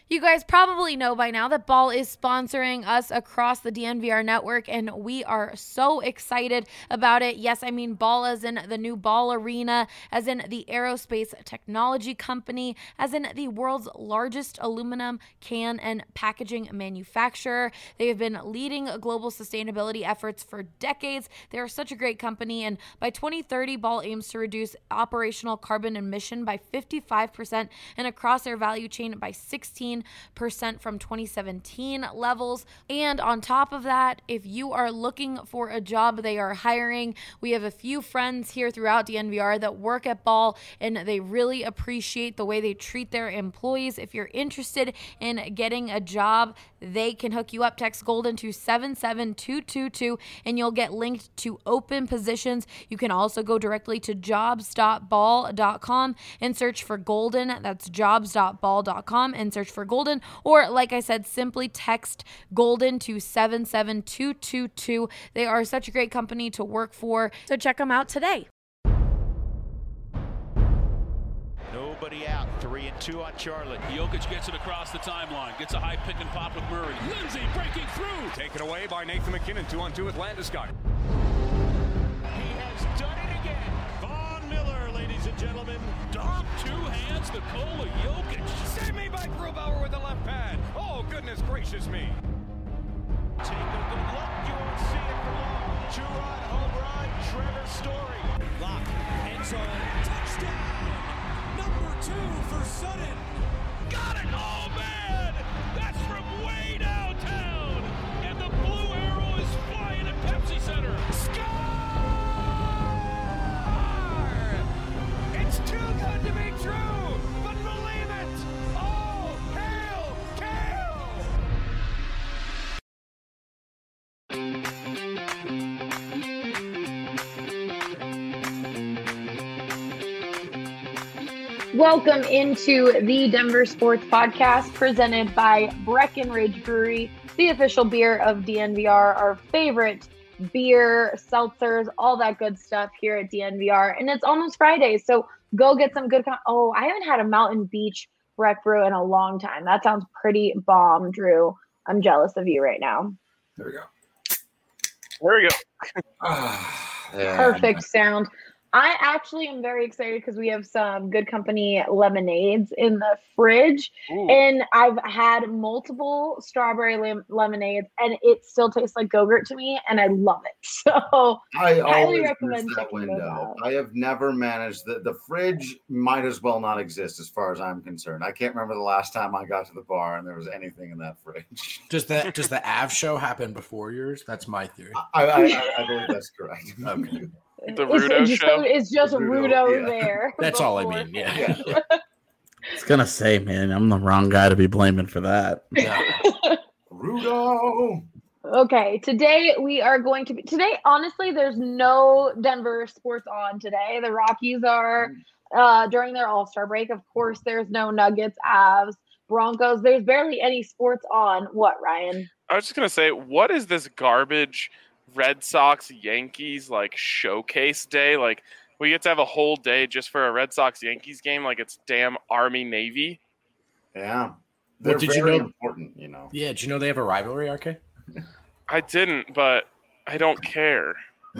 You guys probably know by now that Ball is sponsoring us across the DNVR network, and we are so excited about it. Yes, I mean Ball as in the new Ball Arena, as in the aerospace technology company, as in the world's largest aluminum can and packaging manufacturer. They have been leading global sustainability efforts for decades. They are such a great company, and by 2030, Ball aims to reduce operational carbon emission by 55% and across their value chain by 16% from 2017 levels. And on top of that, if you are looking for a job, they are hiring. We have a few friends here throughout DNVR that work at Ball, and they really appreciate the way they treat their employees. If you're interested in getting a job, they can hook you up. Text Golden to 77222 and you'll get linked to open positions. You can also go directly to jobs.ball.com and search for Golden. That's jobs.ball.com and search for Golden, or like I said, simply text Golden to 77222. They are such a great company to work for, so check them out today. Nobody out. 3-2 on Charlotte. Jokic gets it across the timeline. Gets a high pick and pop with Murray. Lindsay breaking through. Taken away by Nathan McKinnon. 2-on-2 with Landeskog. He has done it again. Von Miller, ladies and gentlemen. Dom, two hands, Nikola Jokic. Save me by Grubauer with the left pad. Oh, goodness gracious me. Take a good look. You won't see it for long. Two-run home run. Trevor Story. Lock. End zone. Touchdown. Number 2 for Sutton. Got it! Oh, man! That's from way downtown! And the blue arrow is flying at Pepsi Center. Score! It's too good to be true, but believe it! Oh, hail, Welcome into the Denver Sports Podcast presented by Breckenridge Brewery, the official beer of DNVR, our favorite beer, seltzers, all that good stuff here at DNVR. And it's almost Friday, so go get some good. I haven't had a Mountain Beach Breck Brew in a long time. That sounds pretty bomb, Drew. I'm jealous of you right now. There we go. Perfect sound. I actually am very excited because we have some Good Company lemonades in the fridge. Ooh. And I've had multiple strawberry lemonades, and it still tastes like Go-Gurt to me, and I love it. So I highly recommend checking those out. I have never managed the fridge might as well not exist as far as I'm concerned. I can't remember the last time I got to the bar and there was anything in that fridge. Does the Av show happen before yours? That's my theory. I believe that's correct. Okay. The Rudo show. It's just Rudo there. That's all I mean. Yeah. I was gonna say, man, I'm the wrong guy to be blaming for that. Yeah. Rudo. Okay, today honestly, there's no Denver sports on today. The Rockies are during their All-Star break. Of course, there's no Nuggets, Avs, Broncos. There's barely any sports on. What, Ryan? I was just gonna say, what is this garbage Red Sox Yankees like showcase day? Like, we get to have a whole day just for a Red Sox Yankees game, like it's damn Army Navy. Yeah, they're very important, you know. Yeah, did you know they have a rivalry, RK? I didn't, but I don't care.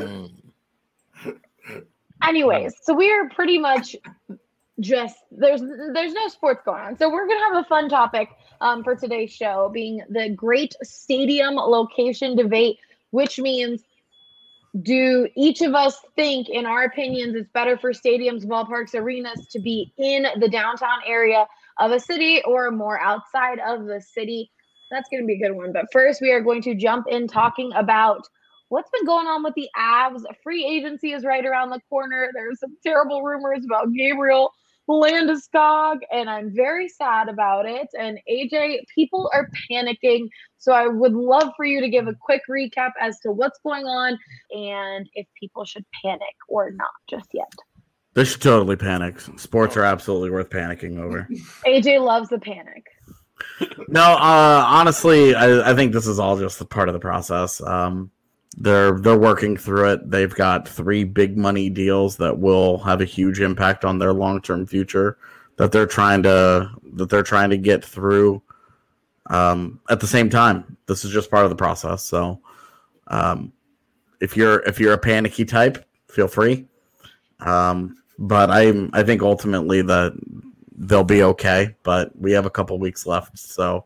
Anyways, so we are pretty much just there's no sports going on, so we're gonna have a fun topic for today's show, being the great stadium location debate. Which means, do each of us think, in our opinions, it's better for stadiums, ballparks, arenas to be in the downtown area of a city or more outside of the city? That's going to be a good one. But first, we are going to jump in talking about what's been going on with the Avs. Free agency is right around the corner. There's some terrible rumors about Gabriel Landeskog, and I'm very sad about it. And AJ, people are panicking. So I would love for you to give a quick recap as to what's going on and if people should panic or not just yet. They should totally panic. Sports are absolutely worth panicking over. AJ loves the panic. No, honestly, I think this is all just a part of the process. They're working through it. They've got 3 big money deals that will have a huge impact on their long-term future that they're trying to get through. At the same time, this is just part of the process. So if you're a panicky type, feel free. But I think ultimately that they'll be okay. But we have a couple weeks left, so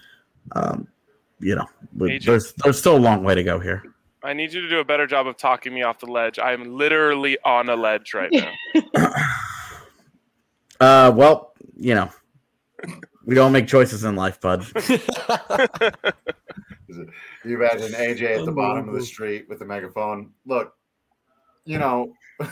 there's still a long way to go here. I need you to do a better job of talking me off the ledge. I am literally on a ledge right now. Well, we don't make choices in life, bud. You imagine AJ at the bottom of the street with the megaphone. Look, they're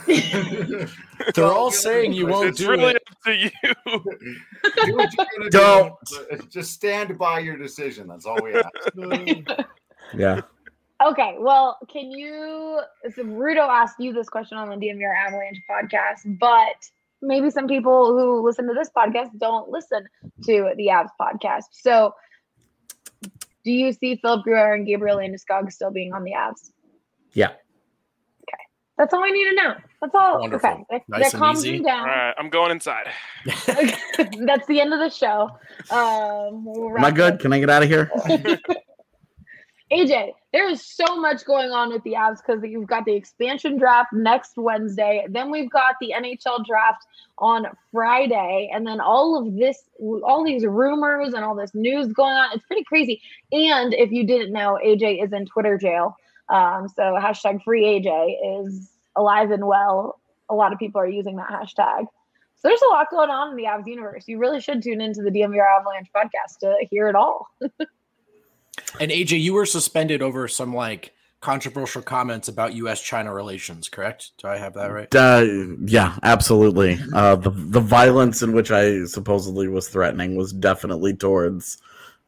all saying you won't it's do really it. up to you. Do what you're gonna Don't. do. Just stand by your decision. That's all we ask. Yeah. Okay, well, can you? So Rudo asked you this question on the DMVR Avalanche podcast, but maybe some people who listen to this podcast don't listen to the Avs podcast. So, do you see Philip Grubauer and Gabriel Landeskog still being on the Avs? Yeah. Okay, that's all I need to know. That's all. Wonderful. Okay, Nice that and calms easy. me down. All right, I'm going inside. That's the end of the show. We'll Am I good? Can I get out of here? AJ, there is so much going on with the Avs because you've got the expansion draft next Wednesday. Then we've got the NHL draft on Friday. And then all these rumors and all this news going on. It's pretty crazy. And if you didn't know, AJ is in Twitter jail. So hashtag free AJ is alive and well. A lot of people are using that hashtag. So there's a lot going on in the Avs universe. You really should tune into the DMVR Avalanche podcast to hear it all. And AJ, you were suspended over some controversial comments about U.S.-China relations, correct? Do I have that right? Yeah, absolutely. The violence in which I supposedly was threatening was definitely towards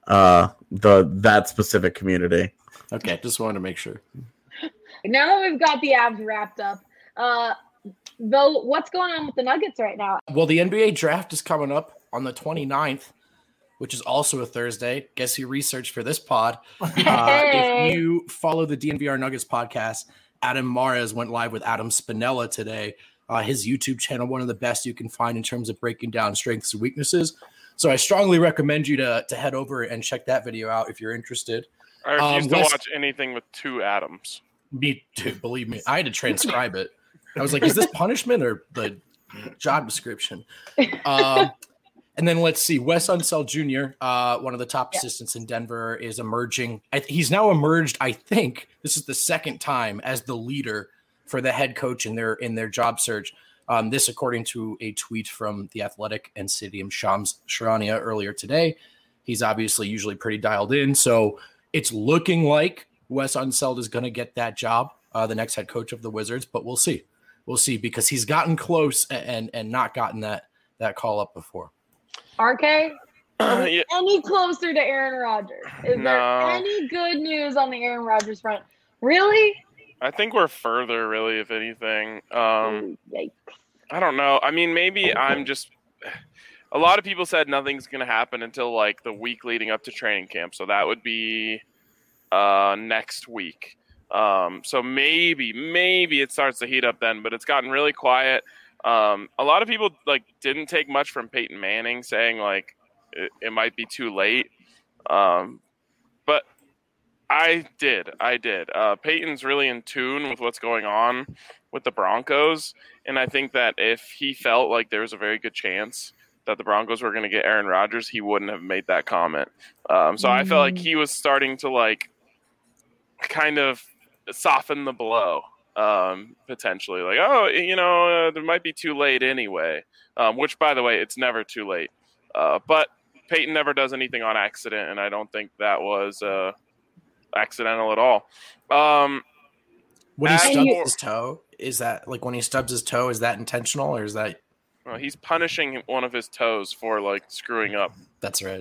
that specific community. Okay, just wanted to make sure. Now that we've got the Avs wrapped up, though, what's going on with the Nuggets right now? Well, the NBA draft is coming up on the 29th, which is also a Thursday. Guess who researched for this pod? If you follow the DNVR Nuggets podcast, Adam Mares went live with Adam Spinella today. His YouTube channel, one of the best you can find in terms of breaking down strengths and weaknesses. So I strongly recommend you to head over and check that video out if you're interested. I refuse to watch anything with two Adams. Me too, believe me. I had to transcribe it. I was like, is this punishment or the job description? And then let's see, Wes Unseld Jr., one of the top assistants in Denver, is emerging. He's now emerged, I think, this is the second time, as the leader for the head coach in their job search. This, according to a tweet from The Athletic and Sidiam Shams Charania earlier today. He's obviously usually pretty dialed in. So it's looking like Wes Unseld is going to get that job, the next head coach of the Wizards, but we'll see. We'll see, because he's gotten close and not gotten that call up before. RK, Yeah. any closer to Aaron Rodgers? Is there any good news on the Aaron Rodgers front? Really? I think we're further, really, if anything. Yikes. I don't know. I mean, maybe I'm just – a lot of people said nothing's going to happen until, the week leading up to training camp. So that would be next week. So maybe it starts to heat up then. But it's gotten really quiet. A lot of people, didn't take much from Peyton Manning saying, it might be too late. But I did. Peyton's really in tune with what's going on with the Broncos. And I think that if he felt like there was a very good chance that the Broncos were going to get Aaron Rodgers, he wouldn't have made that comment. So I felt like he was starting to kind of soften the blow, potentially. There might be too late anyway, which, by the way, it's never too late. But Peyton never does anything on accident, and I don't think that was accidental at all. When he stubs his toe, is that when he stubs his toe, is that intentional, or is that? He's punishing one of his toes for screwing up. That's right.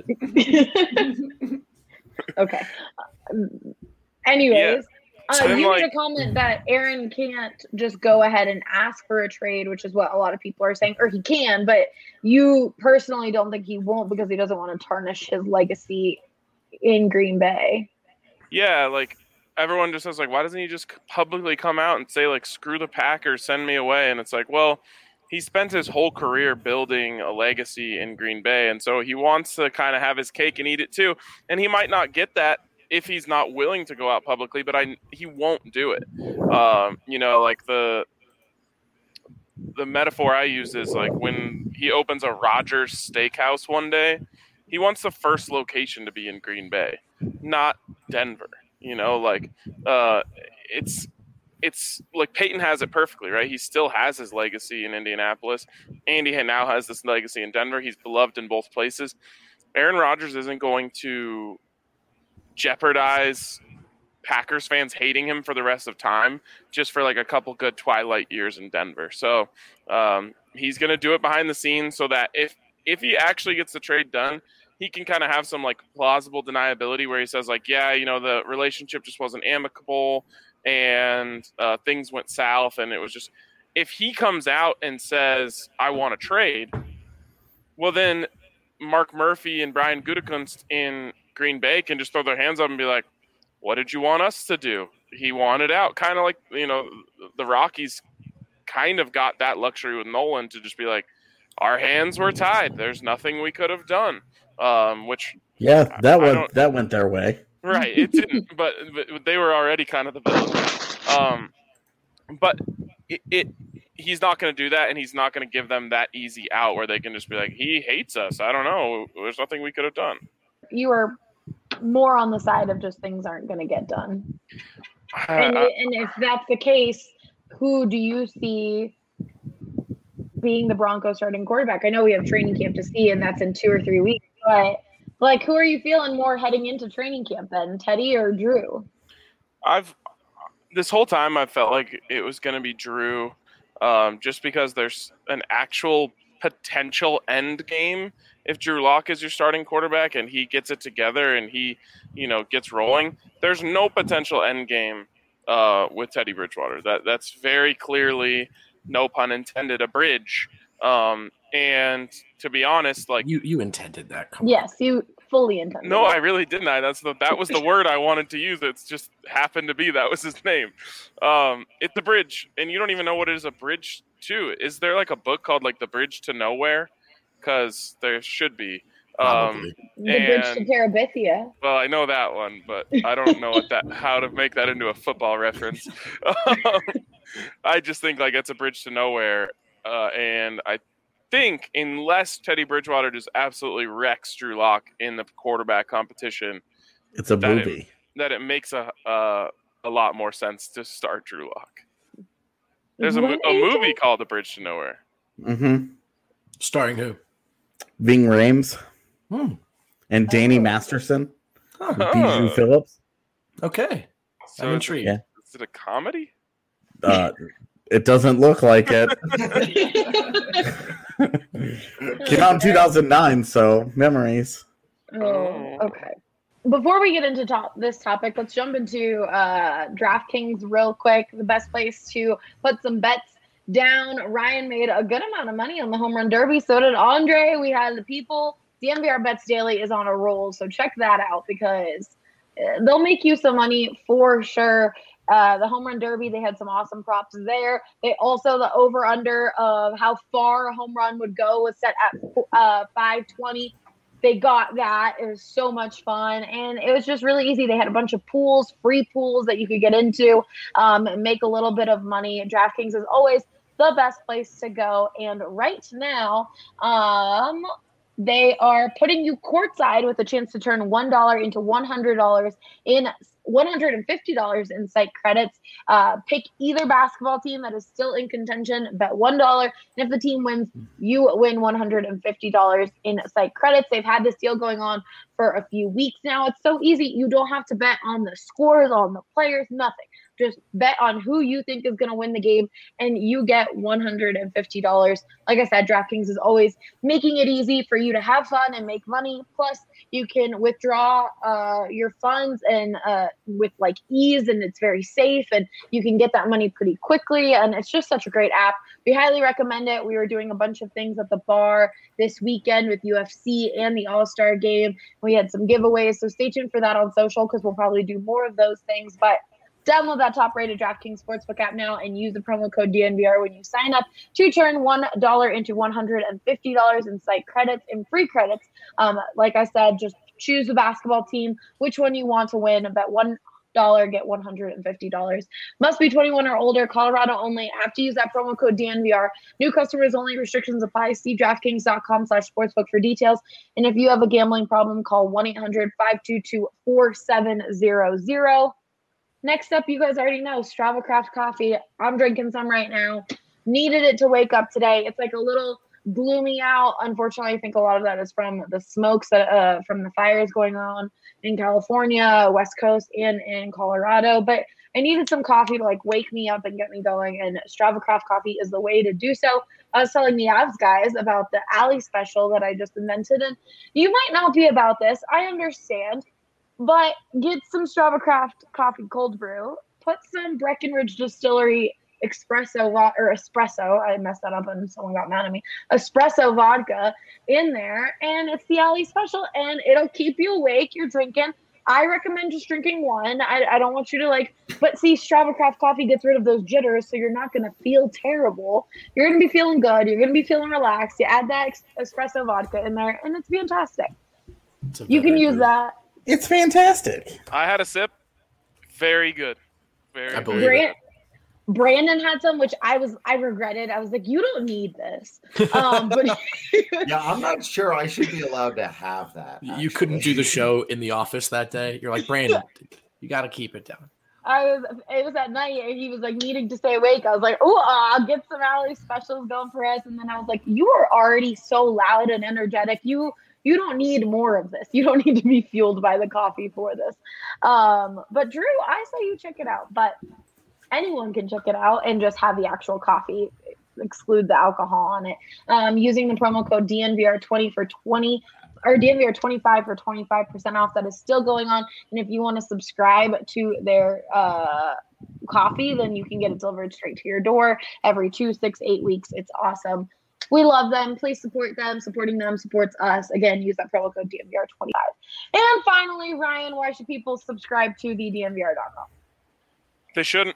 Okay. Anyways, So you made a comment that Aaron can't just go ahead and ask for a trade, which is what a lot of people are saying, or he can, but you personally don't think he won't because he doesn't want to tarnish his legacy in Green Bay. Yeah, everyone just says, why doesn't he just publicly come out and say, screw the Packers, send me away? And it's well, he spent his whole career building a legacy in Green Bay, and so he wants to kind of have his cake and eat it too. And he might not get that if he's not willing to go out publicly, but he won't do it. Like the metaphor I use is like when he opens a Rogers Steakhouse one day, he wants the first location to be in Green Bay, not Denver. It's like Peyton has it perfectly, right? He still has his legacy in Indianapolis. Andy now has this legacy in Denver. He's beloved in both places. Aaron Rodgers isn't going to jeopardize Packers fans hating him for the rest of time just for like a couple good twilight years in Denver. So he's going to do it behind the scenes so that if he actually gets the trade done, he can kind of have some like plausible deniability where he says like, yeah, the relationship just wasn't amicable and things went south. And it was just, if he comes out and says, I want to trade, well, then Mark Murphy and Brian Gutekunst in Green Bay can just throw their hands up and be like, what did you want us to do? He wanted out. Kind of like, the Rockies kind of got that luxury with Nolan to just be like, our hands were tied. There's nothing we could have done. That went their way. Right. It didn't, but they were already kind of the villain. But he's not going to do that, and he's not going to give them that easy out where they can just be like, he hates us. I don't know. There's nothing we could have done. You were more on the side of just things aren't going to get done. And if that's the case, who do you see being the Broncos starting quarterback? I know we have training camp to see, and that's in 2 or 3 weeks, but like, who are you feeling more heading into training camp then, Teddy or Drew? This whole time I felt like it was going to be Drew, just because there's an actual potential end game if Drew Lock is your starting quarterback and he gets it together and he, gets rolling. There's no potential end game with Teddy Bridgewater. That's very clearly, no pun intended, a bridge. And to be honest, like you intended that. Yes, you fully intended. No, I really didn't. That was the word I wanted to use. It's just happened to be that was his name. It's a bridge, and you don't even know what it is a bridge to. Is there like a book called like The Bridge to Nowhere? Because there should be. The Bridge to Terabithia. Well, I know that one, but I don't know how to make that into a football reference. I just think like it's a bridge to nowhere, and I think unless Teddy Bridgewater just absolutely wrecks Drew Lock in the quarterback competition, it's a movie that it makes a lot more sense to start Drew Lock. There's a movie called The Bridge to Nowhere. Mm-hmm. Starring who? Ving Rhames and Danny Masterson. Bijou Phillips. Okay. So I'm intrigued. Is it a comedy? It doesn't look like it. Came out in 2009, so memories. Oh, okay. Before we get into this topic, let's jump into DraftKings real quick. The best place to put some bets down. Ryan made a good amount of money on the Home Run Derby. So did Andre. We had the people. The DNVR Bets Daily is on a roll, so check that out because they'll make you some money for sure. The Home Run Derby, they had some awesome props there. They also, the over-under of how far a home run would go was set at 520. They got that. It was so much fun, and it was just really easy. They had a bunch of pools, free pools that you could get into and make a little bit of money. DraftKings is always the best place to go, and right now they are putting you courtside with a chance to turn $1 into $150 in site credits. Pick either basketball team that is still in contention, bet $1, and if the team wins, you win $150 in site credits. They've had this deal going on for a few weeks now. It's so easy. You don't have to bet on the scores, on the players, nothing. Just bet on who you think is going to win the game, and you get $150. Like I said, DraftKings is always making it easy for you to have fun and make money. Plus, you can withdraw your funds and with like ease, and it's very safe, and you can get that money pretty quickly. And it's just such a great app. We highly recommend it. We were doing a bunch of things at the bar this weekend with UFC and the All-Star game. We had some giveaways, so stay tuned for that on social because we'll probably do more of those things. But Download that top-rated DraftKings Sportsbook app now and use the promo code DNVR when you sign up to turn $1 into $150 in site credits and free credits. Like I said, just choose the basketball team, which one you want to win. Bet $1, get $150. Must be 21 or older. Colorado only. Have to use that promo code DNVR. New customers only. Restrictions apply. See DraftKings.com/sportsbook for details. And if you have a gambling problem, call 1-800-522-4700. Next up, you guys already know, Strava Craft Coffee. I'm drinking some right now. Needed it to wake up today. It's like a little gloomy out. Unfortunately, I think a lot of that is from the smokes that from the fires going on in California, West Coast, and in Colorado. But I needed some coffee to like wake me up and get me going, and Strava Craft Coffee is the way to do so. I was telling the Avs guys about the Alley special that I just invented, and you might not be about this. I understand, but get some Strava Craft Coffee cold brew. Put some Breckenridge Distillery espresso, I messed that up and someone got mad at me, espresso vodka in there, and it's the Alley special, and it'll keep you awake. You're drinking. I recommend just drinking one. I don't want you to but see, Strava Craft Coffee gets rid of those jitters, so you're not going to feel terrible. You're going to be feeling good. You're going to be feeling relaxed. You add that espresso vodka in there, and it's fantastic. You can use that. It's fantastic. I had a sip. Very good. I believe it. Brandon had some, which I regretted. I was like, you don't need this. But yeah, I'm not sure I should be allowed to have that. You actually. couldn't do the show in the office that day. You're like, Brandon, you got to keep it down. It was at night, and he was like needing to stay awake. I was like, oh, I'll get some Alley specials going for us. And then I was like, you are already so loud and energetic. You don't need more of this. You don't need to be fueled by the coffee for this. But Drew, I say you check it out. But anyone can check it out and just have the actual coffee, exclude the alcohol on it. Using the promo code DNVR20 for 20 or DNVR25 for 25% off. That is still going on. And if you want to subscribe to their coffee, then you can get it delivered straight to your door every 2, 6, 8 weeks. It's awesome. We love them. Please support them. Supporting them supports us. Again, use that promo code DNVR25. And finally, Ryan, why should people subscribe to the DNVR.com? They shouldn't.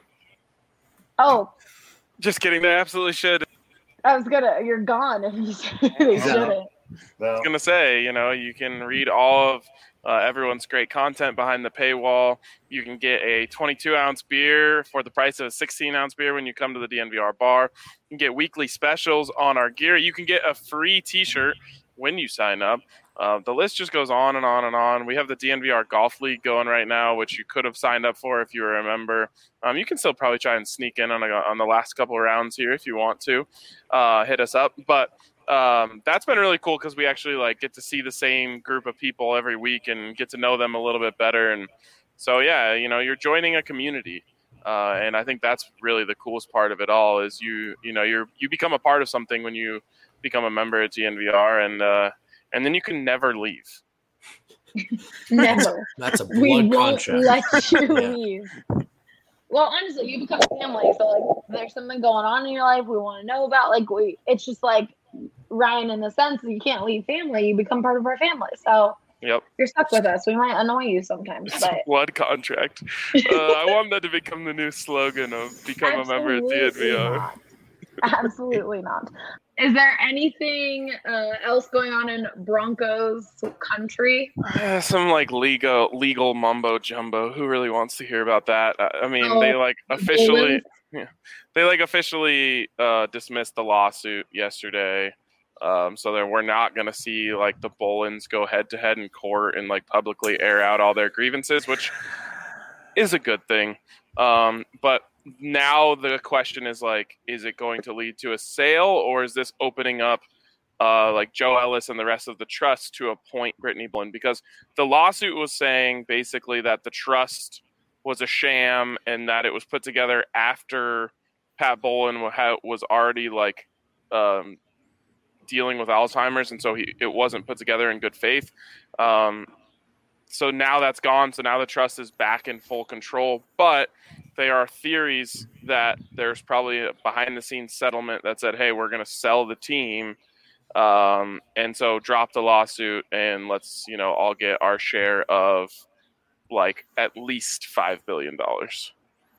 Oh. Just kidding. They absolutely should. You're gone if you said they shouldn't. I was going to say, you can read all of everyone's great content behind the paywall. You can get a 22-ounce beer for the price of a 16-ounce beer when you come to the DNVR bar. You can get weekly specials on our gear. You can get a free T-shirt when you sign up. The list just goes on and on and on. We have the DNVR Golf League going right now, which you could have signed up for if you were a member. You can still probably try and sneak in on the last couple of rounds here if you want to. Hit us up. But that's been really cool because we actually get to see the same group of people every week and get to know them a little bit better. And so, yeah, you're joining a community. And I think that's really the coolest part of it all is you become a part of something when you become a member at DNVR, and then you can never leave. Never. That's a blood contract. We won't let you leave. Well, honestly, you become family. So, there's something going on in your life we want to know about. It's just like Ryan in the sense that you can't leave family. You become part of our family. So, yep, you're stuck with us. We might annoy you sometimes. But blood contract. I want that to become the new slogan of become a member at DNVR. Not. Absolutely not. Is there anything else going on in Broncos country? Some legal mumbo jumbo. Who really wants to hear about that? I mean, they officially dismissed the lawsuit yesterday. So we're not going to see the Bullens go head to head in court and publicly air out all their grievances, which is a good thing. But now the question is is it going to lead to a sale, or is this opening up Joe Ellis and the rest of the trust to appoint Brittany Bullen? Because the lawsuit was saying basically that the trust was a sham and that it was put together after Pat Bullen was already dealing with Alzheimer's, and so it wasn't put together in good faith. So now that's gone. So now the trust is back in full control. But there are theories that there's probably a behind-the-scenes settlement that said, hey, we're going to sell the team. And so drop the lawsuit and let's, all get our share of at least $5 billion.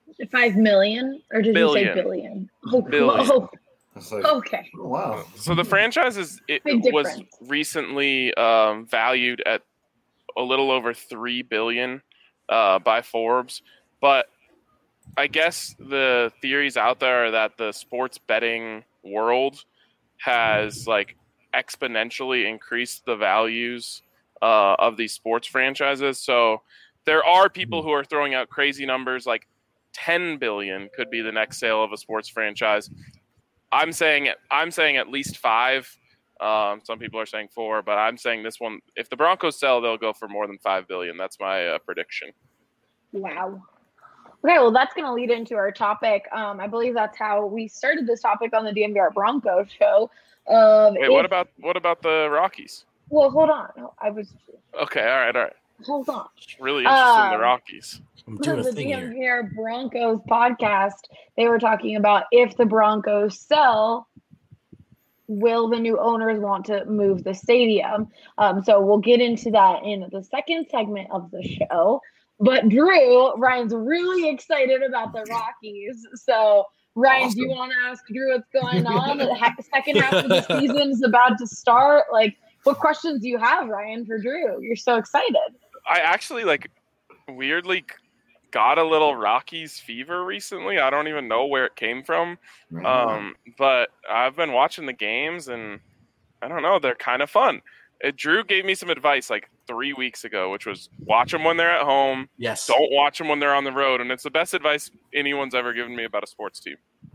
5 million, or did you say Billion. billion? Oh, Billion. oh, It's like, okay. oh, wow. So the franchise Big was difference. recently valued at a little over $3 billion by Forbes, but I guess the theories out there are that the sports betting world has like exponentially increased the values of these sports franchises. So there are people who are throwing out crazy numbers like 10 billion could be the next sale of a sports franchise. I'm saying at least 5. Some people are saying 4, but I'm saying this one, if the Broncos sell, they'll go for more than 5 billion. That's my prediction. Wow. Okay, well, that's going to lead into our topic. I believe that's how we started this topic on the DNVR Broncos show. Wait, what about the Rockies? Well, hold on. Okay, all right. Hold on. Really interested in the Rockies. I'm doing a The thing here. DNVR Broncos podcast, they were talking about if the Broncos sell, will the new owners want to move the stadium? So we'll get into that in the second segment of the show. But Ryan's really excited about the Rockies. So Ryan, Awesome. do you want to ask Drew what's going on? The second half of the season is about to start. Like, what questions do you have, Ryan, for Drew? You're so excited. I actually weirdly got a little Rockies fever recently. I don't even know where it came from. But I've been watching the games and I don't know, they're kind of fun. Drew gave me some advice 3 weeks ago, which was watch them when they're at home. Yes. Don't watch them when they're on the road. And it's the best advice anyone's ever given me about a sports team.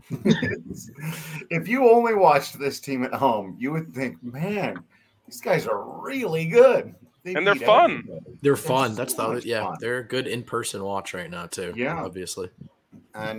If you only watched this team at home, you would think, man, these guys are really good. And they're fun. They're fun. That's so the much yeah. fun. They're a good in-person watch right now too. Yeah. Obviously. And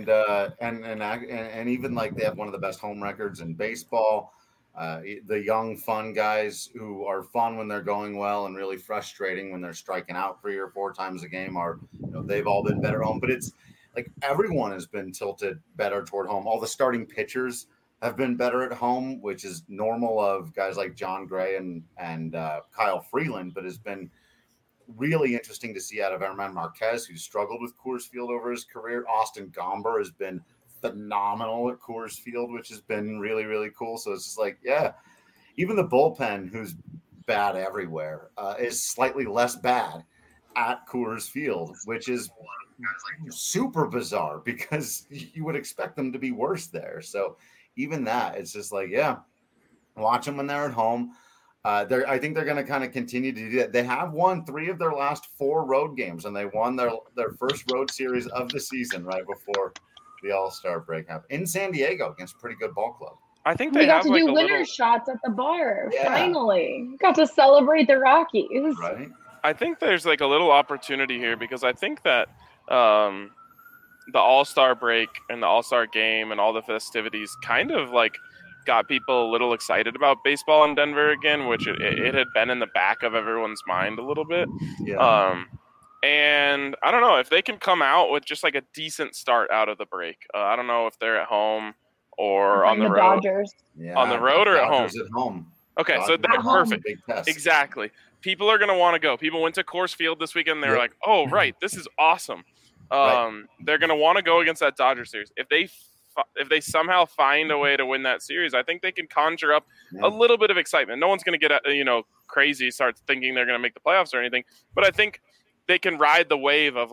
even they have one of the best home records in baseball. The young, fun guys who are fun when they're going well and really frustrating when they're striking out 3 or 4 times a game they've all been better home. But it's everyone has been tilted better toward home. All the starting pitchers have been better at home, which is normal of guys like John Gray and Kyle Freeland, but has been really interesting to see out of Herman Marquez, who's struggled with Coors Field over his career. Austin Gomber has been phenomenal at Coors Field, which has been really, really cool. So it's just even the bullpen, who's bad everywhere, is slightly less bad at Coors Field, which is super bizarre because you would expect them to be worse there. So even that, it's just watch them when they're at home. I think they're going to kind of continue to do that. They have won 3 of their last 4 road games, and they won their first road series of the season right before the All-Star break happened in San Diego against a pretty good ball club. I think We they got have to do a winner little. shots at the bar. Yeah. Finally. Got to celebrate the Rockies. Right? I think there's a little opportunity here because I think that the All-Star break and the All-Star game and all the festivities kind of got people a little excited about baseball in Denver again, which it had been in the back of everyone's mind a little bit. Yeah. And I don't know if they can come out with just a decent start out of the break. I don't know if they're at home or on the road. Dodgers. Yeah. On the road or at home? Dodgers at home. Okay, so Dodgers that's at home, perfect. big test. Exactly. People are going to want to go. People went to Coors Field this weekend. They were like, oh, right, this is awesome. Right. They're going to want to go against that Dodgers series. If they somehow find a way to win that series, I think they can conjure up a little bit of excitement. No one's going to get crazy, start thinking they're going to make the playoffs or anything. But I think they can ride the wave of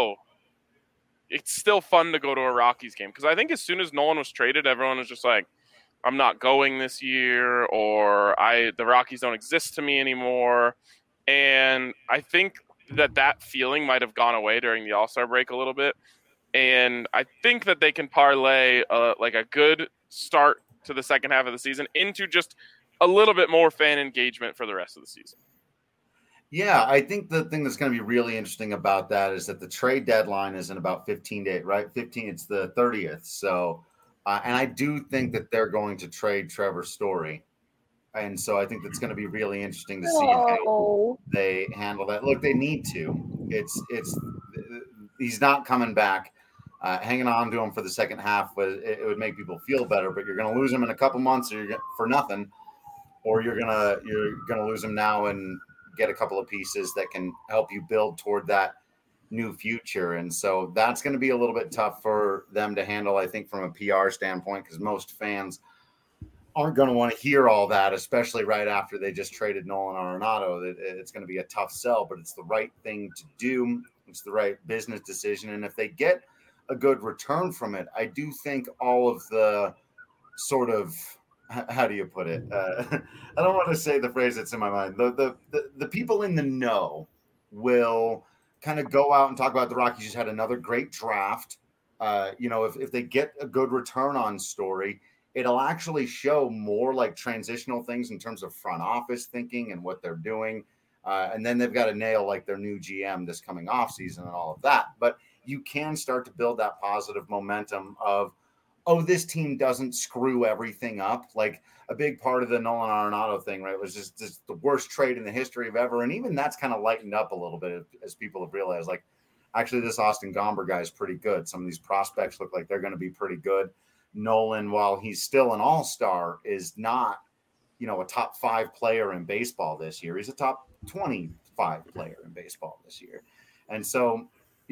it's still fun to go to a Rockies game. Because I think as soon as Nolan was traded, everyone was just like, I'm not going this year, or the Rockies don't exist to me anymore. And I think that feeling might have gone away during the All-Star break a little bit. And I think that they can parlay a good start to the second half of the season into just a little bit more fan engagement for the rest of the season. Yeah, I think the thing that's going to be really interesting about that is that the trade deadline is in about 15 days, right? It's the 30th. So, and I do think that they're going to trade Trevor Story. And so I think that's going to be really interesting to see how they handle that. Look, they need to. He's not coming back. Hanging on to him for the second half, it would make people feel better. But you're going to lose him in a couple months, for nothing, or you're gonna lose him now and get a couple of pieces that can help you build toward that new future. And so that's going to be a little bit tough for them to handle, I think, from a PR standpoint, because most fans aren't going to want to hear all that, especially right after they just traded Nolan Arenado. It's going to be a tough sell, but it's the right thing to do. It's the right business decision. And if they get a good return from it, I do think all of the sort of, how do you put it? I don't want to say the phrase that's in my mind. The people in the know will kind of go out and talk about the Rockies just had another great draft. If they get a good return on Story, it'll actually show more like transitional things in terms of front office thinking and what they're doing. And then they've got to nail like their new GM this coming off season and all of that. But you can start to build that positive momentum of, oh, this team doesn't screw everything up. Like a big part of the Nolan Arenado thing, right, was just the worst trade in the history of ever. And even that's kind of lightened up a little bit as people have realized, like, actually, this Austin Gomber guy is pretty good. Some of these prospects look like they're going to be pretty good. Nolan, while he's still an all-star, is not, a top 5 player in baseball this year. He's a top 25 player in baseball this year. And so,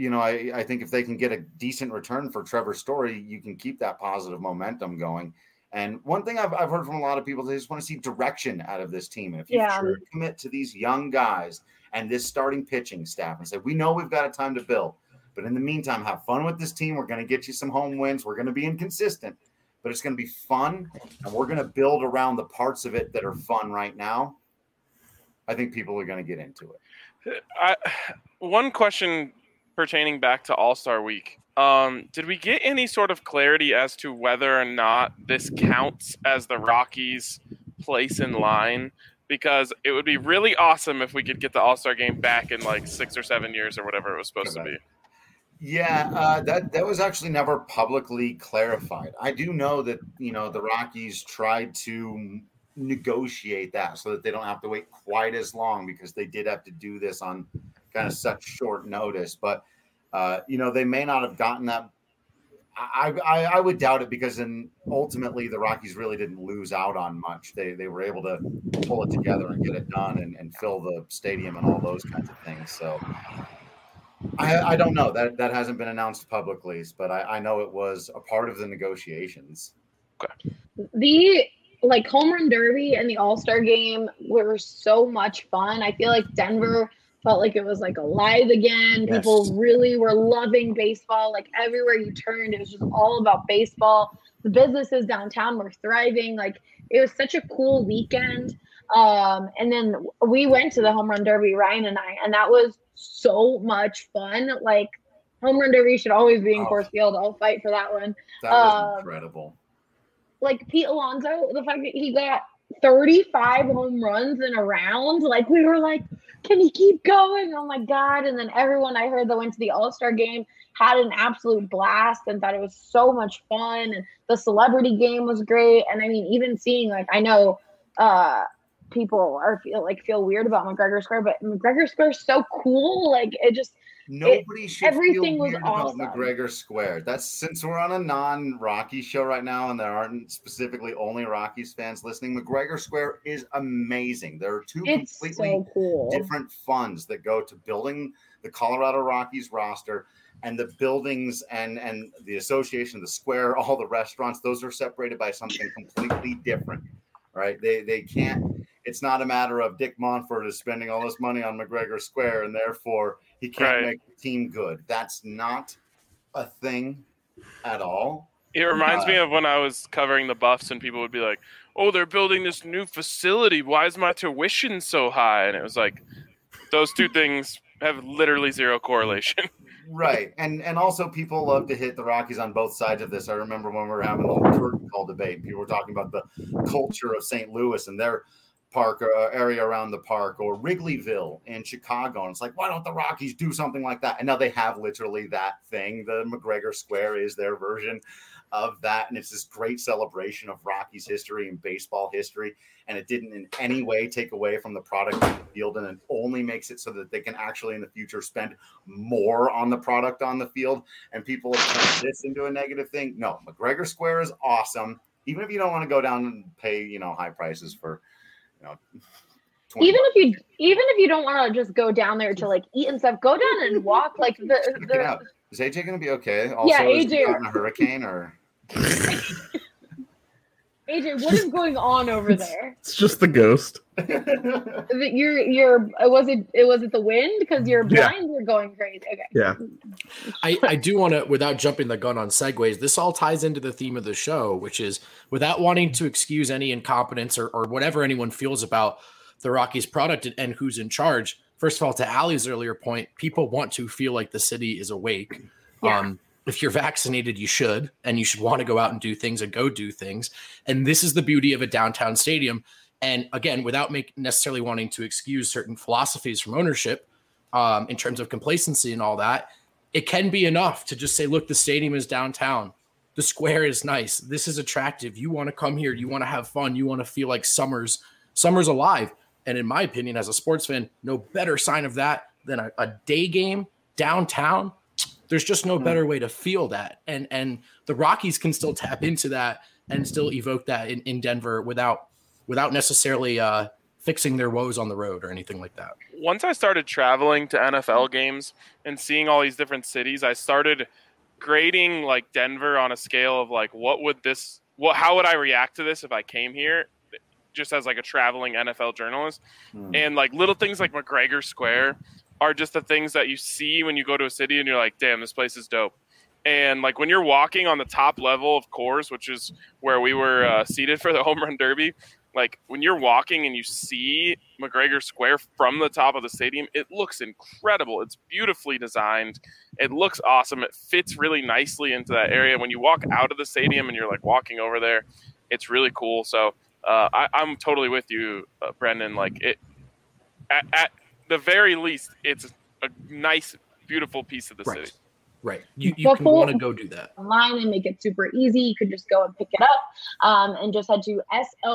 I think if they can get a decent return for Trevor Story, you can keep that positive momentum going. And one thing I've heard from a lot of people, they just want to see direction out of this team. And if you truly commit to these young guys and this starting pitching staff and say, we know we've got a time to build, but in the meantime, have fun with this team. We're going to get you some home wins. We're going to be inconsistent, but it's going to be fun. And we're going to build around the parts of it that are fun right now. I think people are going to get into it. One question pertaining back to All-Star Week. Did we get any sort of clarity as to whether or not this counts as the Rockies' place in line? Because it would be really awesome if we could get the All-Star game back in like 6 or 7 years or whatever it was supposed to be. Yeah, that was actually never publicly clarified. I do know that, the Rockies tried to negotiate that so that they don't have to wait quite as long, because they did have to do this on kind of such short notice. But, they may not have gotten that. I would doubt it, because ultimately the Rockies really didn't lose out on much. They were able to pull it together and get it done and fill the stadium and all those kinds of things. So I don't know. That hasn't been announced publicly, but I know it was a part of the negotiations. Okay. The home run derby and the All-Star game were so much fun. I feel like Denver felt like it was like alive again. Yes. People really were loving baseball. Like everywhere you turned, it was just all about baseball. The businesses downtown were thriving. Like it was such a cool weekend. And then we went to the home run derby, Ryan and I, and that was so much fun. Like home run derby should always be in Coors Field. I'll fight for that one. That was incredible. Like Pete Alonso, the fact that he got 35 home runs in a round, like we were like, can he keep going? Oh my God. And then everyone I heard that went to the All-Star game had an absolute blast and thought it was so much fun. And the celebrity game was great. And I mean, even seeing, like, I know people feel weird about McGregor Square, but McGregor Square is so cool. Like it just, nobody should everything feel was weird awesome. about McGregor Square. That's, since we're on a non-Rocky show right now and there aren't specifically only Rockies fans listening, McGregor Square is amazing. There are two completely different funds that go to building the Colorado Rockies roster, and the buildings and the association, the square, all the restaurants, those are separated by something completely different, right? They can't, it's not a matter of Dick Monfort is spending all this money on McGregor Square and therefore he can't make the team good. That's not a thing at all. It reminds me of when I was covering the Buffs and people would be like, oh, they're building this new facility. Why is my tuition so high? And it was like, those two things have literally zero correlation. Right. And also people love to hit the Rockies on both sides of this. I remember when we were having the whole curtain call debate, people were talking about the culture of St. Louis and their park area around the park, or Wrigleyville in Chicago. And it's like, why don't the Rockies do something like that? And now they have literally that thing. The McGregor Square is their version of that. And it's this great celebration of Rockies history and baseball history. And it didn't in any way take away from the product on the field. And it only makes it so that they can actually in the future spend more on the product on the field. And people have turned this into a negative thing. No, McGregor Square is awesome. Even if you don't want to go down and pay, high prices for, 20 Even if you don't want to just go down there to like eat and stuff, go down and walk. Like the Is AJ going to be okay? Also, Yeah, is he AJ. caught in a hurricane or? AJ, what is going on over there? It's just the ghost. You're was it the wind? Because your Yeah. blinds were going crazy. Okay. Yeah. I do want to, without jumping the gun on segues, this all ties into the theme of the show, which is without wanting to excuse any incompetence or whatever anyone feels about the Rockies product and who's in charge. First of all, to Allie's earlier point, people want to feel like the city is awake. Yeah. If you're vaccinated, you should, and you should want to go out and do things and go do things. And this is the beauty of a downtown stadium. And again, without necessarily wanting to excuse certain philosophies from ownership in terms of complacency and all that, it can be enough to just say, look, the stadium is downtown. The square is nice. This is attractive. You want to come here. You want to have fun. You want to feel like summer's alive. And in my opinion, as a sports fan, no better sign of that than a day game downtown. There's just no better way to feel that. And the Rockies can still tap into that and still evoke that in Denver without necessarily fixing their woes on the road or anything like that. Once I started traveling to NFL games and seeing all these different cities, I started grading like Denver on a scale of like, how would I react to this if I came here just as like a traveling NFL journalist? And like little things like McGregor Square are just the things that you see when you go to a city and you're like, damn, this place is dope. And like when you're walking on the top level of Coors, which is where we were seated for the Home Run Derby, like when you're walking and you see McGregor Square from the top of the stadium, it looks incredible. It's beautifully designed. It looks awesome. It fits really nicely into that area. When you walk out of the stadium and you're like walking over there, it's really cool. So I'm totally with you, Brendan. Like it, at the very least, it's a nice, beautiful piece of the city. Right. You can want to go do that. Online and make it super easy. You could just go and pick it up and just head to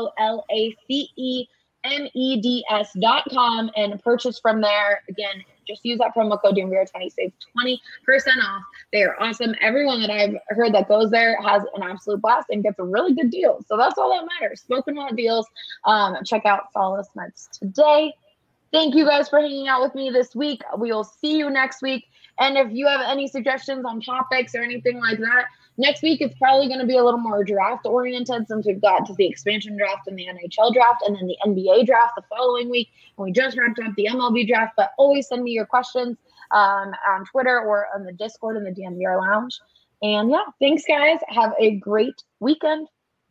solacemeds.com and purchase from there. Again, just use that promo code DMVR20, save 20% off. They are awesome. Everyone that I've heard that goes there has an absolute blast and gets a really good deal. So that's all that matters. Smoking hot deals. Check out Solace Meds today. Thank you guys for hanging out with me this week. We will see you next week. And if you have any suggestions on topics or anything like that, next week it's probably going to be a little more draft oriented since we've got to the expansion draft and the NHL draft and then the NBA draft the following week. And we just wrapped up the MLB draft, but always send me your questions on Twitter or on the Discord in the DNVR Lounge. And yeah, thanks guys. Have a great weekend.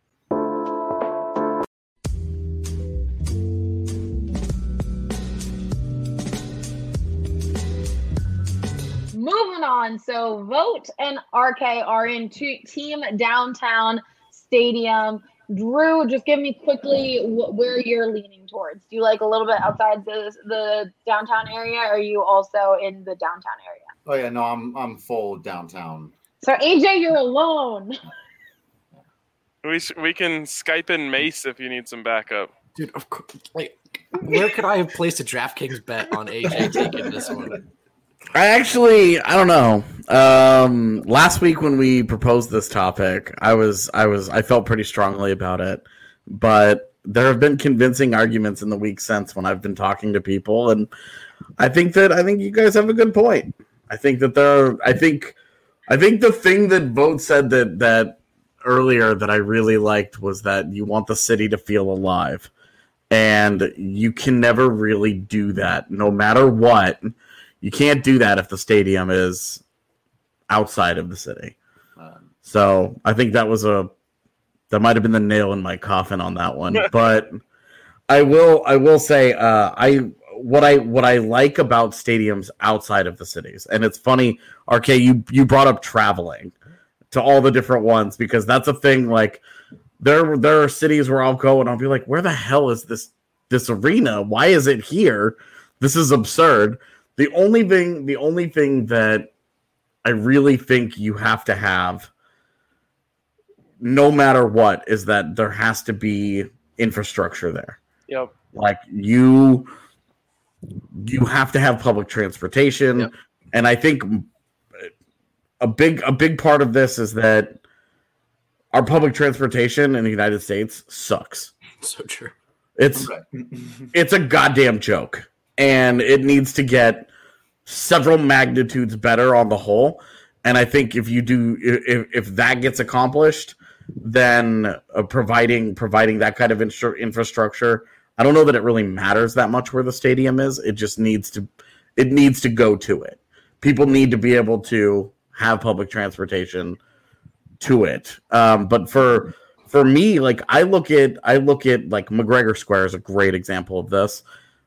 Moving on. So Vogt and RK are in Team Downtown Stadium. Drew, just give me quickly where you're leaning towards. Do you like a little bit outside the downtown area, or are you also in the downtown area? Oh yeah, no, I'm full downtown. So AJ, you're alone. We can Skype in Mace if you need some backup. Dude, of course. Like, where could I have placed a DraftKings bet on AJ taking this one? I don't know. Last week when we proposed this topic, I felt pretty strongly about it, but there have been convincing arguments in the week since when I've been talking to people, and I think you guys have a good point. I think the thing that Vogt said that earlier that I really liked was that you want the city to feel alive, and you can never really do that, no matter what. You can't do that if the stadium is outside of the city. So I think that might have been the nail in my coffin on that one. But I will say what I like about stadiums outside of the cities, and it's funny, RK, you brought up traveling to all the different ones because that's a thing. Like there are cities where I'll go and I'll be like, where the hell is this arena? Why is it here? This is absurd. The only thing that I really think you have to have, no matter what, is that there has to be infrastructure there. Yep. Like you have to have public transportation, Yep. And I think a big part of this is that our public transportation in the United States sucks. So true. It's it's a goddamn joke, and it needs to get several magnitudes better on the whole. And I think if that gets accomplished, then providing that kind of infrastructure, I don't know that it really matters that much where the stadium is. It just needs to go to it. People need to be able to have public transportation to it. But for me, like I look at like McGregor Square is a great example of this.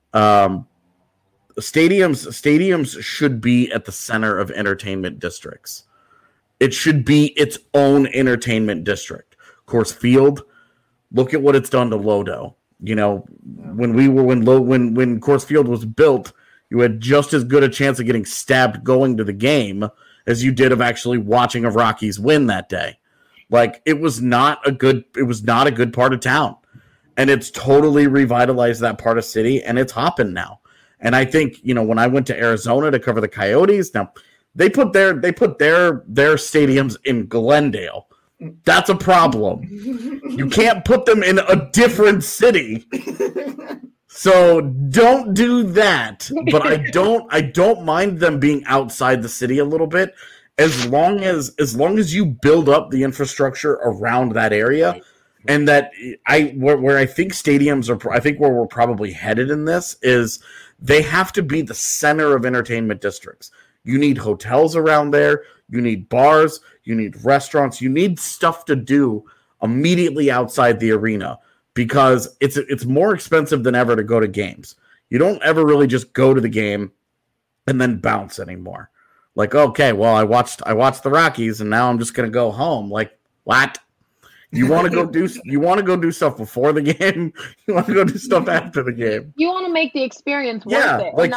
Stadiums should be at the center of entertainment districts. It should be its own entertainment district. Coors Field, look at what it's done to Lodo. You know, when Coors Field was built, you had just as good a chance of getting stabbed going to the game as you did of actually watching a Rockies win that day. Like it was not a good part of town. And it's totally revitalized that part of city, and it's hopping now. And I think, you know, when I went to Arizona to cover the Coyotes, now they put their stadiums in Glendale. That's a problem. You can't put them in a different city. So don't do that. But I don't mind them being outside the city a little bit, as long as you build up the infrastructure around that area. And that where I think stadiums are, I think where we're probably headed in this is they have to be the center of entertainment districts. You need hotels around there. You need bars. You need restaurants. You need stuff to do immediately outside the arena, because it's more expensive than ever to go to games. You don't ever really just go to the game and then bounce anymore. Like, okay, well, I watched the Rockies and now I'm just going to go home. Like, what? You want to go do stuff before the game. You want to go do stuff after the game. You want to make the experience worth it. Like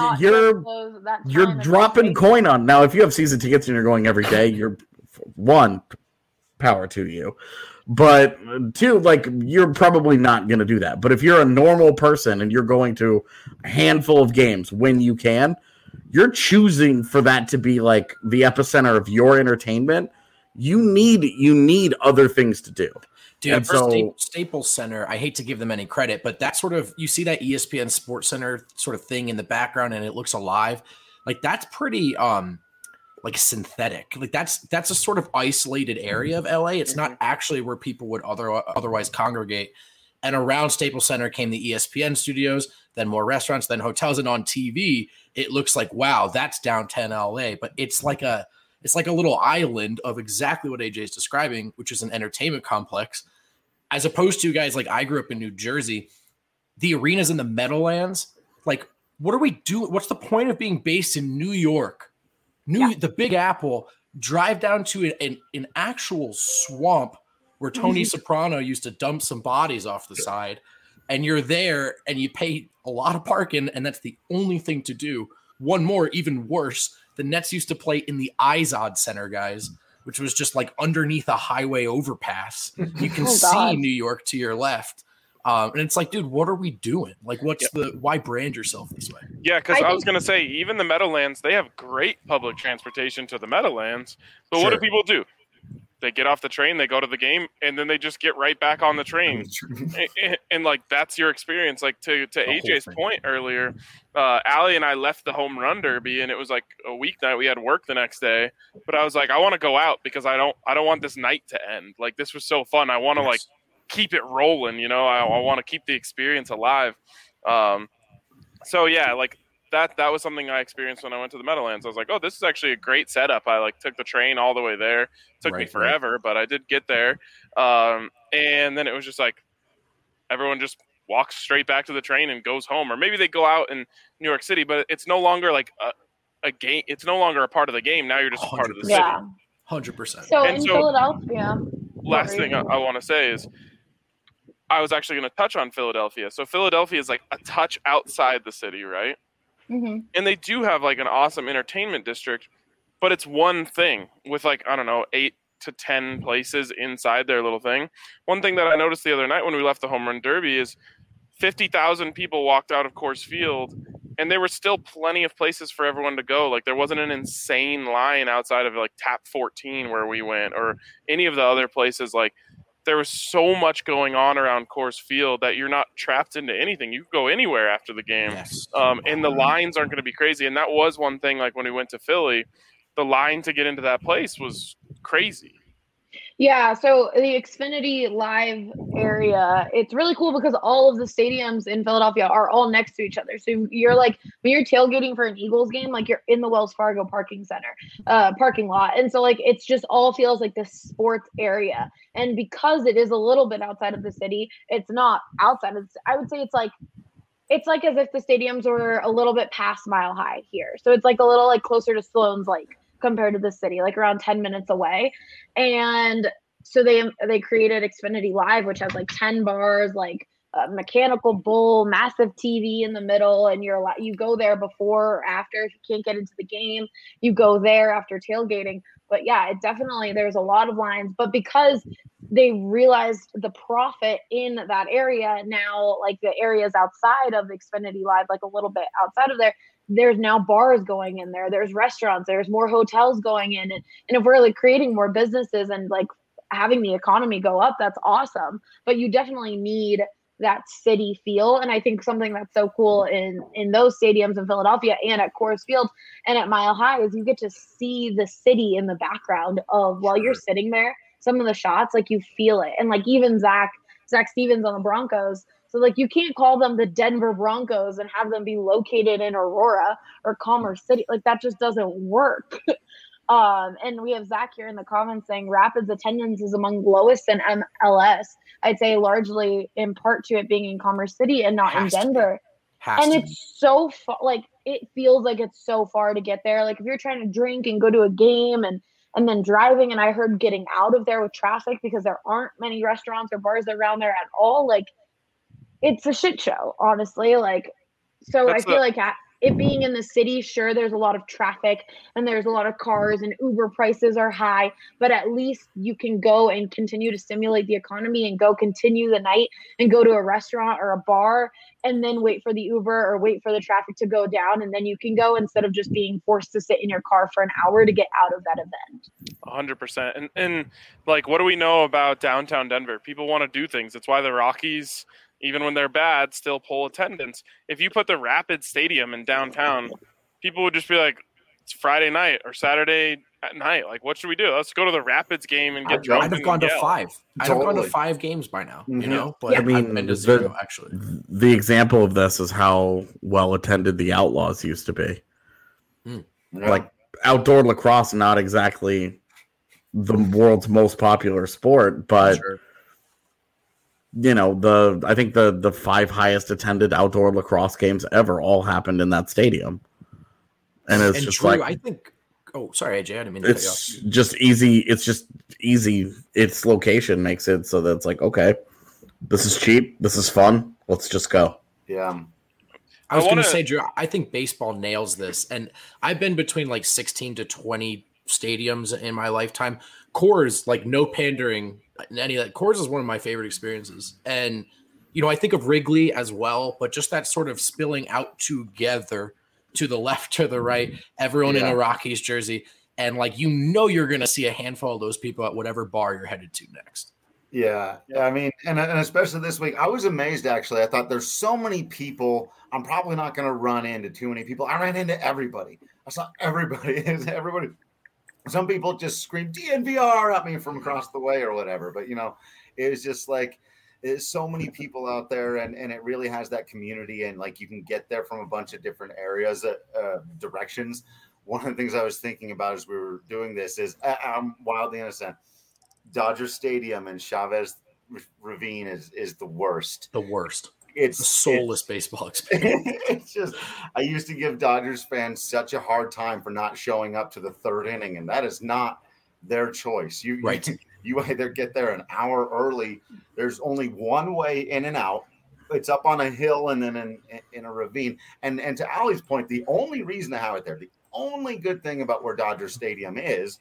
you're dropping coin on. Now, if you have season tickets and you're going every day, you're one, power to you. But two, like you're probably not going to do that. But if you're a normal person and you're going to a handful of games when you can, you're choosing for that to be like the epicenter of your entertainment. You need other things to do. Dude, and Staples Center, I hate to give them any credit, but that sort of, you see that ESPN Sports Center sort of thing in the background and it looks alive. Like that's pretty like synthetic. Like that's a sort of isolated area of LA. It's not actually where people would otherwise congregate. And around Staples Center came the ESPN studios, then more restaurants, then hotels, and on TV, it looks like, wow, that's downtown LA. But it's like a little island of exactly what AJ is describing, which is an entertainment complex, as opposed to, guys, like I grew up in New Jersey, the arenas in the Meadowlands. Like, what are we doing? What's the point of being based in New York? The Big Apple, drive down to an actual swamp where Tony Soprano used to dump some bodies off the side, and you're there and you pay a lot of parking, and that's the only thing to do. One more, even worse, the Nets used to play in the Izod Center, guys, which was just like underneath a highway overpass. You can see New York to your left. And it's like, dude, what are we doing? Like, why brand yourself this way? Yeah, because I was going to say, even the Meadowlands, they have great public transportation to the Meadowlands. But what do people do? They get off the train, they go to the game, and then they just get right back on the train. and like, that's your experience. Like, to AJ's point earlier, Allie and I left the home run derby, and it was like a weeknight. We had work the next day. But I was like, I want to go out because I don't want this night to end. Like, this was so fun. I want to, like, keep it rolling, you know? I want to keep the experience alive. So, yeah, like, that was something I experienced when I went to the Meadowlands. I was like, oh, this is actually a great setup. I like took the train all the way there. It took me forever, but I did get there. And then it was just like everyone just walks straight back to the train and goes home. Or maybe they go out in New York City, but it's no longer like a game. It's no longer a part of the game. Now you're just a part of the city. 100%. So in Philadelphia. Last thing I want to say is I was actually going to touch on Philadelphia. So Philadelphia is like a touch outside the city, right? Mm-hmm. And they do have like an awesome entertainment district, but it's one thing with like, I don't know, 8 to 10 places inside their little thing. One thing that I noticed the other night when we left the home run derby is 50,000 people walked out of Coors Field, and there were still plenty of places for everyone to go. Like there wasn't an insane line outside of like Tap 14 where we went or any of the other places. Like there was so much going on around Coors Field that you're not trapped into anything. You can go anywhere after the game. Yes. And the lines aren't going to be crazy. And that was one thing, like when we went to Philly, the line to get into that place was crazy. Yeah, so the Xfinity Live area, it's really cool because all of the stadiums in Philadelphia are all next to each other. So you're like, when you're tailgating for an Eagles game, like you're in the Wells Fargo parking lot. And so like, it's just all feels like this sports area. And because it is a little bit outside of the city, it's not outside of I would say it's like as if the stadiums were a little bit past Mile High here. So it's like a little like closer to Sloan's Lake compared to the city, like around 10 minutes away. And so they created Xfinity Live, which has like 10 bars, like a mechanical bull, massive TV in the middle, and you go there before or after. If you can't get into the game, you go there after tailgating. But yeah, there's a lot of lines, but because they realized the profit in that area, now like the areas outside of Xfinity Live, like a little bit outside of there, there's now bars going in there. There's restaurants. There's more hotels going in. And if we're like creating more businesses and like having the economy go up, that's awesome. But you definitely need that city feel. And I think something that's so cool in those stadiums in Philadelphia and at Coors Field and at Mile High is you get to see the city in the background of while you're sitting there. Some of the shots, like you feel it. And like even Zach Stevens on the Broncos. So like you can't call them the Denver Broncos and have them be located in Aurora or Commerce City. Like that just doesn't work. And we have Zach here in the comments saying Rapids attendance is among lowest in MLS. I'd say largely in part to it being in Commerce City and not in Denver. And it's so far, like it feels like it's so far to get there. Like if you're trying to drink and go to a game and then driving, and I heard getting out of there with traffic because there aren't many restaurants or bars around there at all. Like it's a shit show, honestly. Like, so I feel like it being in the city, sure, there's a lot of traffic and there's a lot of cars and Uber prices are high, but at least you can go and continue to stimulate the economy and go continue the night and go to a restaurant or a bar and then wait for the Uber or wait for the traffic to go down. And then you can go instead of just being forced to sit in your car for an hour to get out of that event. 100%. And like, what do we know about downtown Denver? People want to do things. That's why the Rockies, even when they're bad, still pull attendance. If you put the Rapids Stadium in downtown, people would just be like, it's Friday night or Saturday at night. Like, what should we do? Let's go to the Rapids game and get drunk. I'd have gone to 5. I'd have gone to 5 games by now, you know? But I mean, I've been to 0, actually. The example of this is how well attended the Outlaws used to be. Like, outdoor lacrosse, not exactly the world's most popular sport, but... Sure. You know, I think the 5 highest attended outdoor lacrosse games ever all happened in that stadium. And it's just Drew, like I think sorry, AJ, I didn't mean to cut you off. It's just easy. Its location makes it so that it's like, okay, this is cheap, this is fun, let's just go. Yeah. I was going to say, Drew, I think baseball nails this. And I've been between like 16 to 20 stadiums in my lifetime. Coors, like no pandering, any of that. Coors is one of my favorite experiences. And, you know, I think of Wrigley as well, but just that sort of spilling out together to the left, to the right, everyone in a Rockies jersey. And like, you know, you're going to see a handful of those people at whatever bar you're headed to next. Yeah. I mean, and especially this week, I was amazed, actually. I thought there's so many people. I'm probably not going to run into too many people. I ran into everybody. I saw everybody. Everybody. Some people just scream DNVR at me from across the way or whatever. But, you know, it was just like there's so many people out there and it really has that community. And like you can get there from a bunch of different areas, directions. One of the things I was thinking about as we were doing this is I'm wildly innocent. Dodger Stadium and Chavez Ravine is the worst. The worst. It's a soulless baseball experience. It's just, I used to give Dodgers fans such a hard time for not showing up to the third inning, and that is not their choice. You either get there an hour early. There's only one way in and out. It's up on a hill and then in a ravine. And to Allie's point, the only reason to have it there, the only good thing about where Dodger Stadium is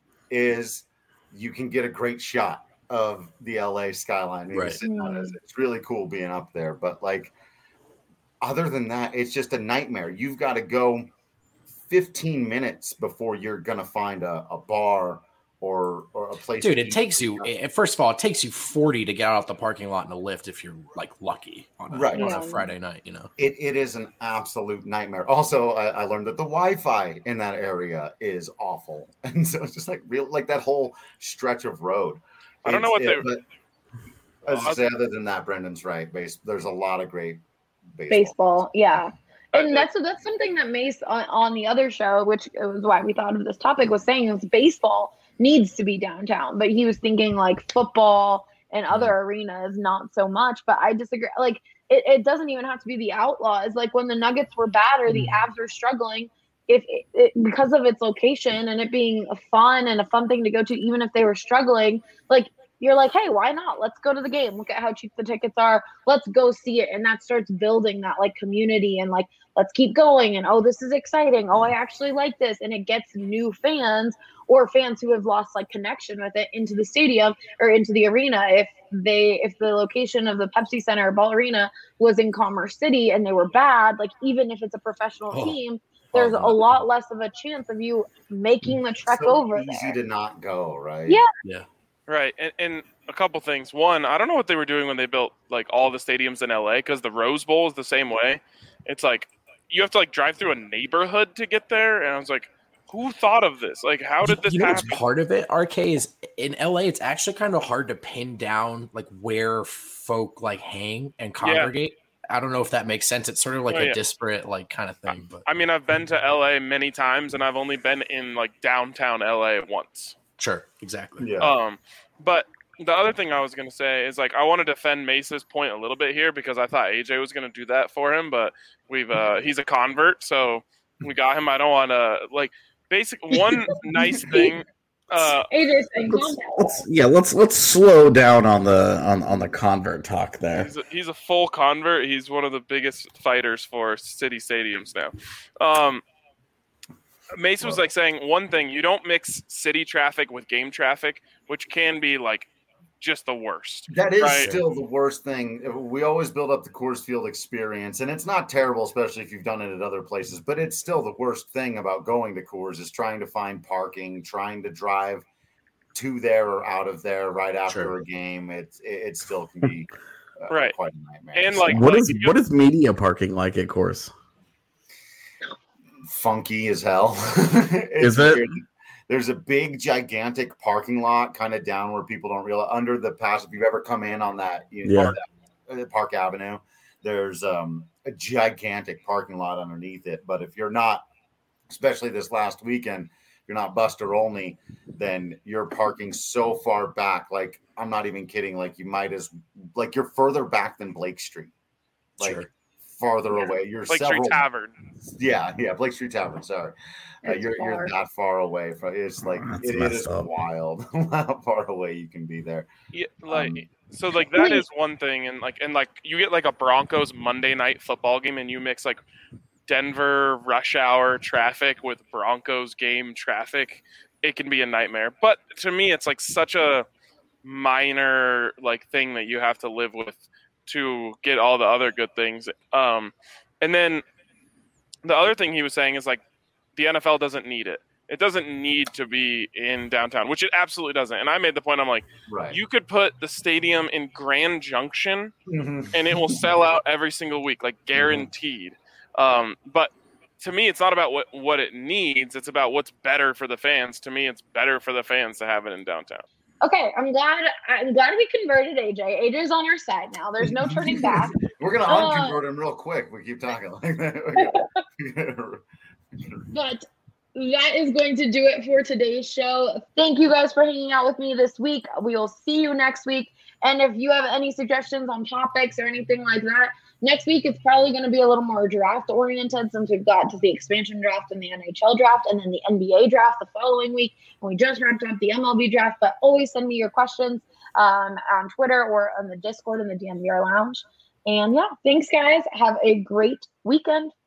you can get a great shot of the LA skyline. Right. It's really cool being up there. But like, other than that, it's just a nightmare. You've got to go 15 minutes before you're going to find a bar or a place. Dude, it takes you. First of all, it takes you 40 to get out the parking lot in a Lyft if you're like lucky on a Friday night. You know, it is an absolute nightmare. Also, I learned that the Wi-Fi in that area is awful, and so it's just like that whole stretch of road. I don't know what they. As I say, other than that, Brendan's right. There's a lot of great baseball. Yeah. And that's something that Mace on the other show, which was why we thought of this topic, was saying is baseball needs to be downtown. But he was thinking like football and other arenas, not so much. But I disagree. Like it doesn't even have to be the Outlaws. Like when the Nuggets were bad or the Avs were struggling, if because of its location and it being a fun thing to go to, even if they were struggling, like you're like, hey, why not? Let's go to the game. Look at how cheap the tickets are. Let's go see it. And that starts building that like community and like, let's keep going. And, oh, this is exciting. Oh, I actually like this. And it gets new fans or fans who have lost like connection with it into the stadium or into the arena. If the location of the Pepsi Center or Ball Arena was in Commerce City and they were bad, like even if it's a professional team, there's a lot less of a chance of you making the trek over there. Easy to not go, right? Yeah. Right, and a couple things. One, I don't know what they were doing when they built like all the stadiums in LA, because the Rose Bowl is the same way. It's like you have to like drive through a neighborhood to get there, and I was like, who thought of this? Like, how did this happen? What's part of it, RK, is in LA, it's actually kind of hard to pin down like where folk like hang and congregate. I don't know if that makes sense. It's sort of like a disparate like kind of thing. But I mean, I've been to LA many times, and I've only been in like downtown LA once. Sure, exactly. Yeah. But the other thing I was going to say is like I want to defend Mace's point a little bit here because I thought AJ was going to do that for him, but he's a convert, so we got him. I don't want to like one nice thing. AJ's saying, let's slow down on the convert talk there. He's a full convert. He's one of the biggest fighters for city stadiums now. Mace was like saying one thing: you don't mix city traffic with game traffic, which can be like just the worst. That is still the worst thing. We always build up the Coors Field experience, and it's not terrible, especially if you've done it at other places, but it's still the worst thing about going to Coors is trying to find parking, trying to drive to there or out of there right after a game. It still can be quite a nightmare. And like, what is media parking like at Coors? Funky as hell. Is it? Weird. There's a big, gigantic parking lot kind of down where people don't realize under the pass. If you've ever come in on that, Park Avenue, there's a gigantic parking lot underneath it. But if you're not, especially this last weekend, you're not Buster only, then you're parking so far back. Like, I'm not even kidding. Like, you're further back than Blake Street. Like, farther away. You're Blake Street Tavern. Yeah, Blake Street Tavern. Sorry, you're that far away from. It's like it is wild how far away you can be there. Yeah, so that is one thing, and you get like a Broncos Monday night football game, and you mix like Denver rush hour traffic with Broncos game traffic. It can be a nightmare. But to me, it's like such a minor like thing that you have to live with to get all the other good things. And then the other thing he was saying is like the NFL doesn't need it. It doesn't need to be in downtown, which it absolutely doesn't. And I made the point, I'm like, you could put the stadium in Grand Junction and it will sell out every single week, like guaranteed. But to me, it's not about what it needs. It's about what's better for the fans. To me, it's better for the fans to have it in downtown. Okay, I'm glad we converted AJ. AJ's on our side now. There's no turning back. We're gonna unconvert him real quick. We keep talking like that. But that is going to do it for today's show. Thank you guys for hanging out with me this week. We will see you next week. And if you have any suggestions on topics or anything like that, next week it's probably going to be a little more draft oriented since we've got to the expansion draft and the NHL draft and then the NBA draft the following week. And we just wrapped up the MLB draft, but always send me your questions on Twitter or on the Discord in the DNVR Lounge. And thanks guys. Have a great weekend.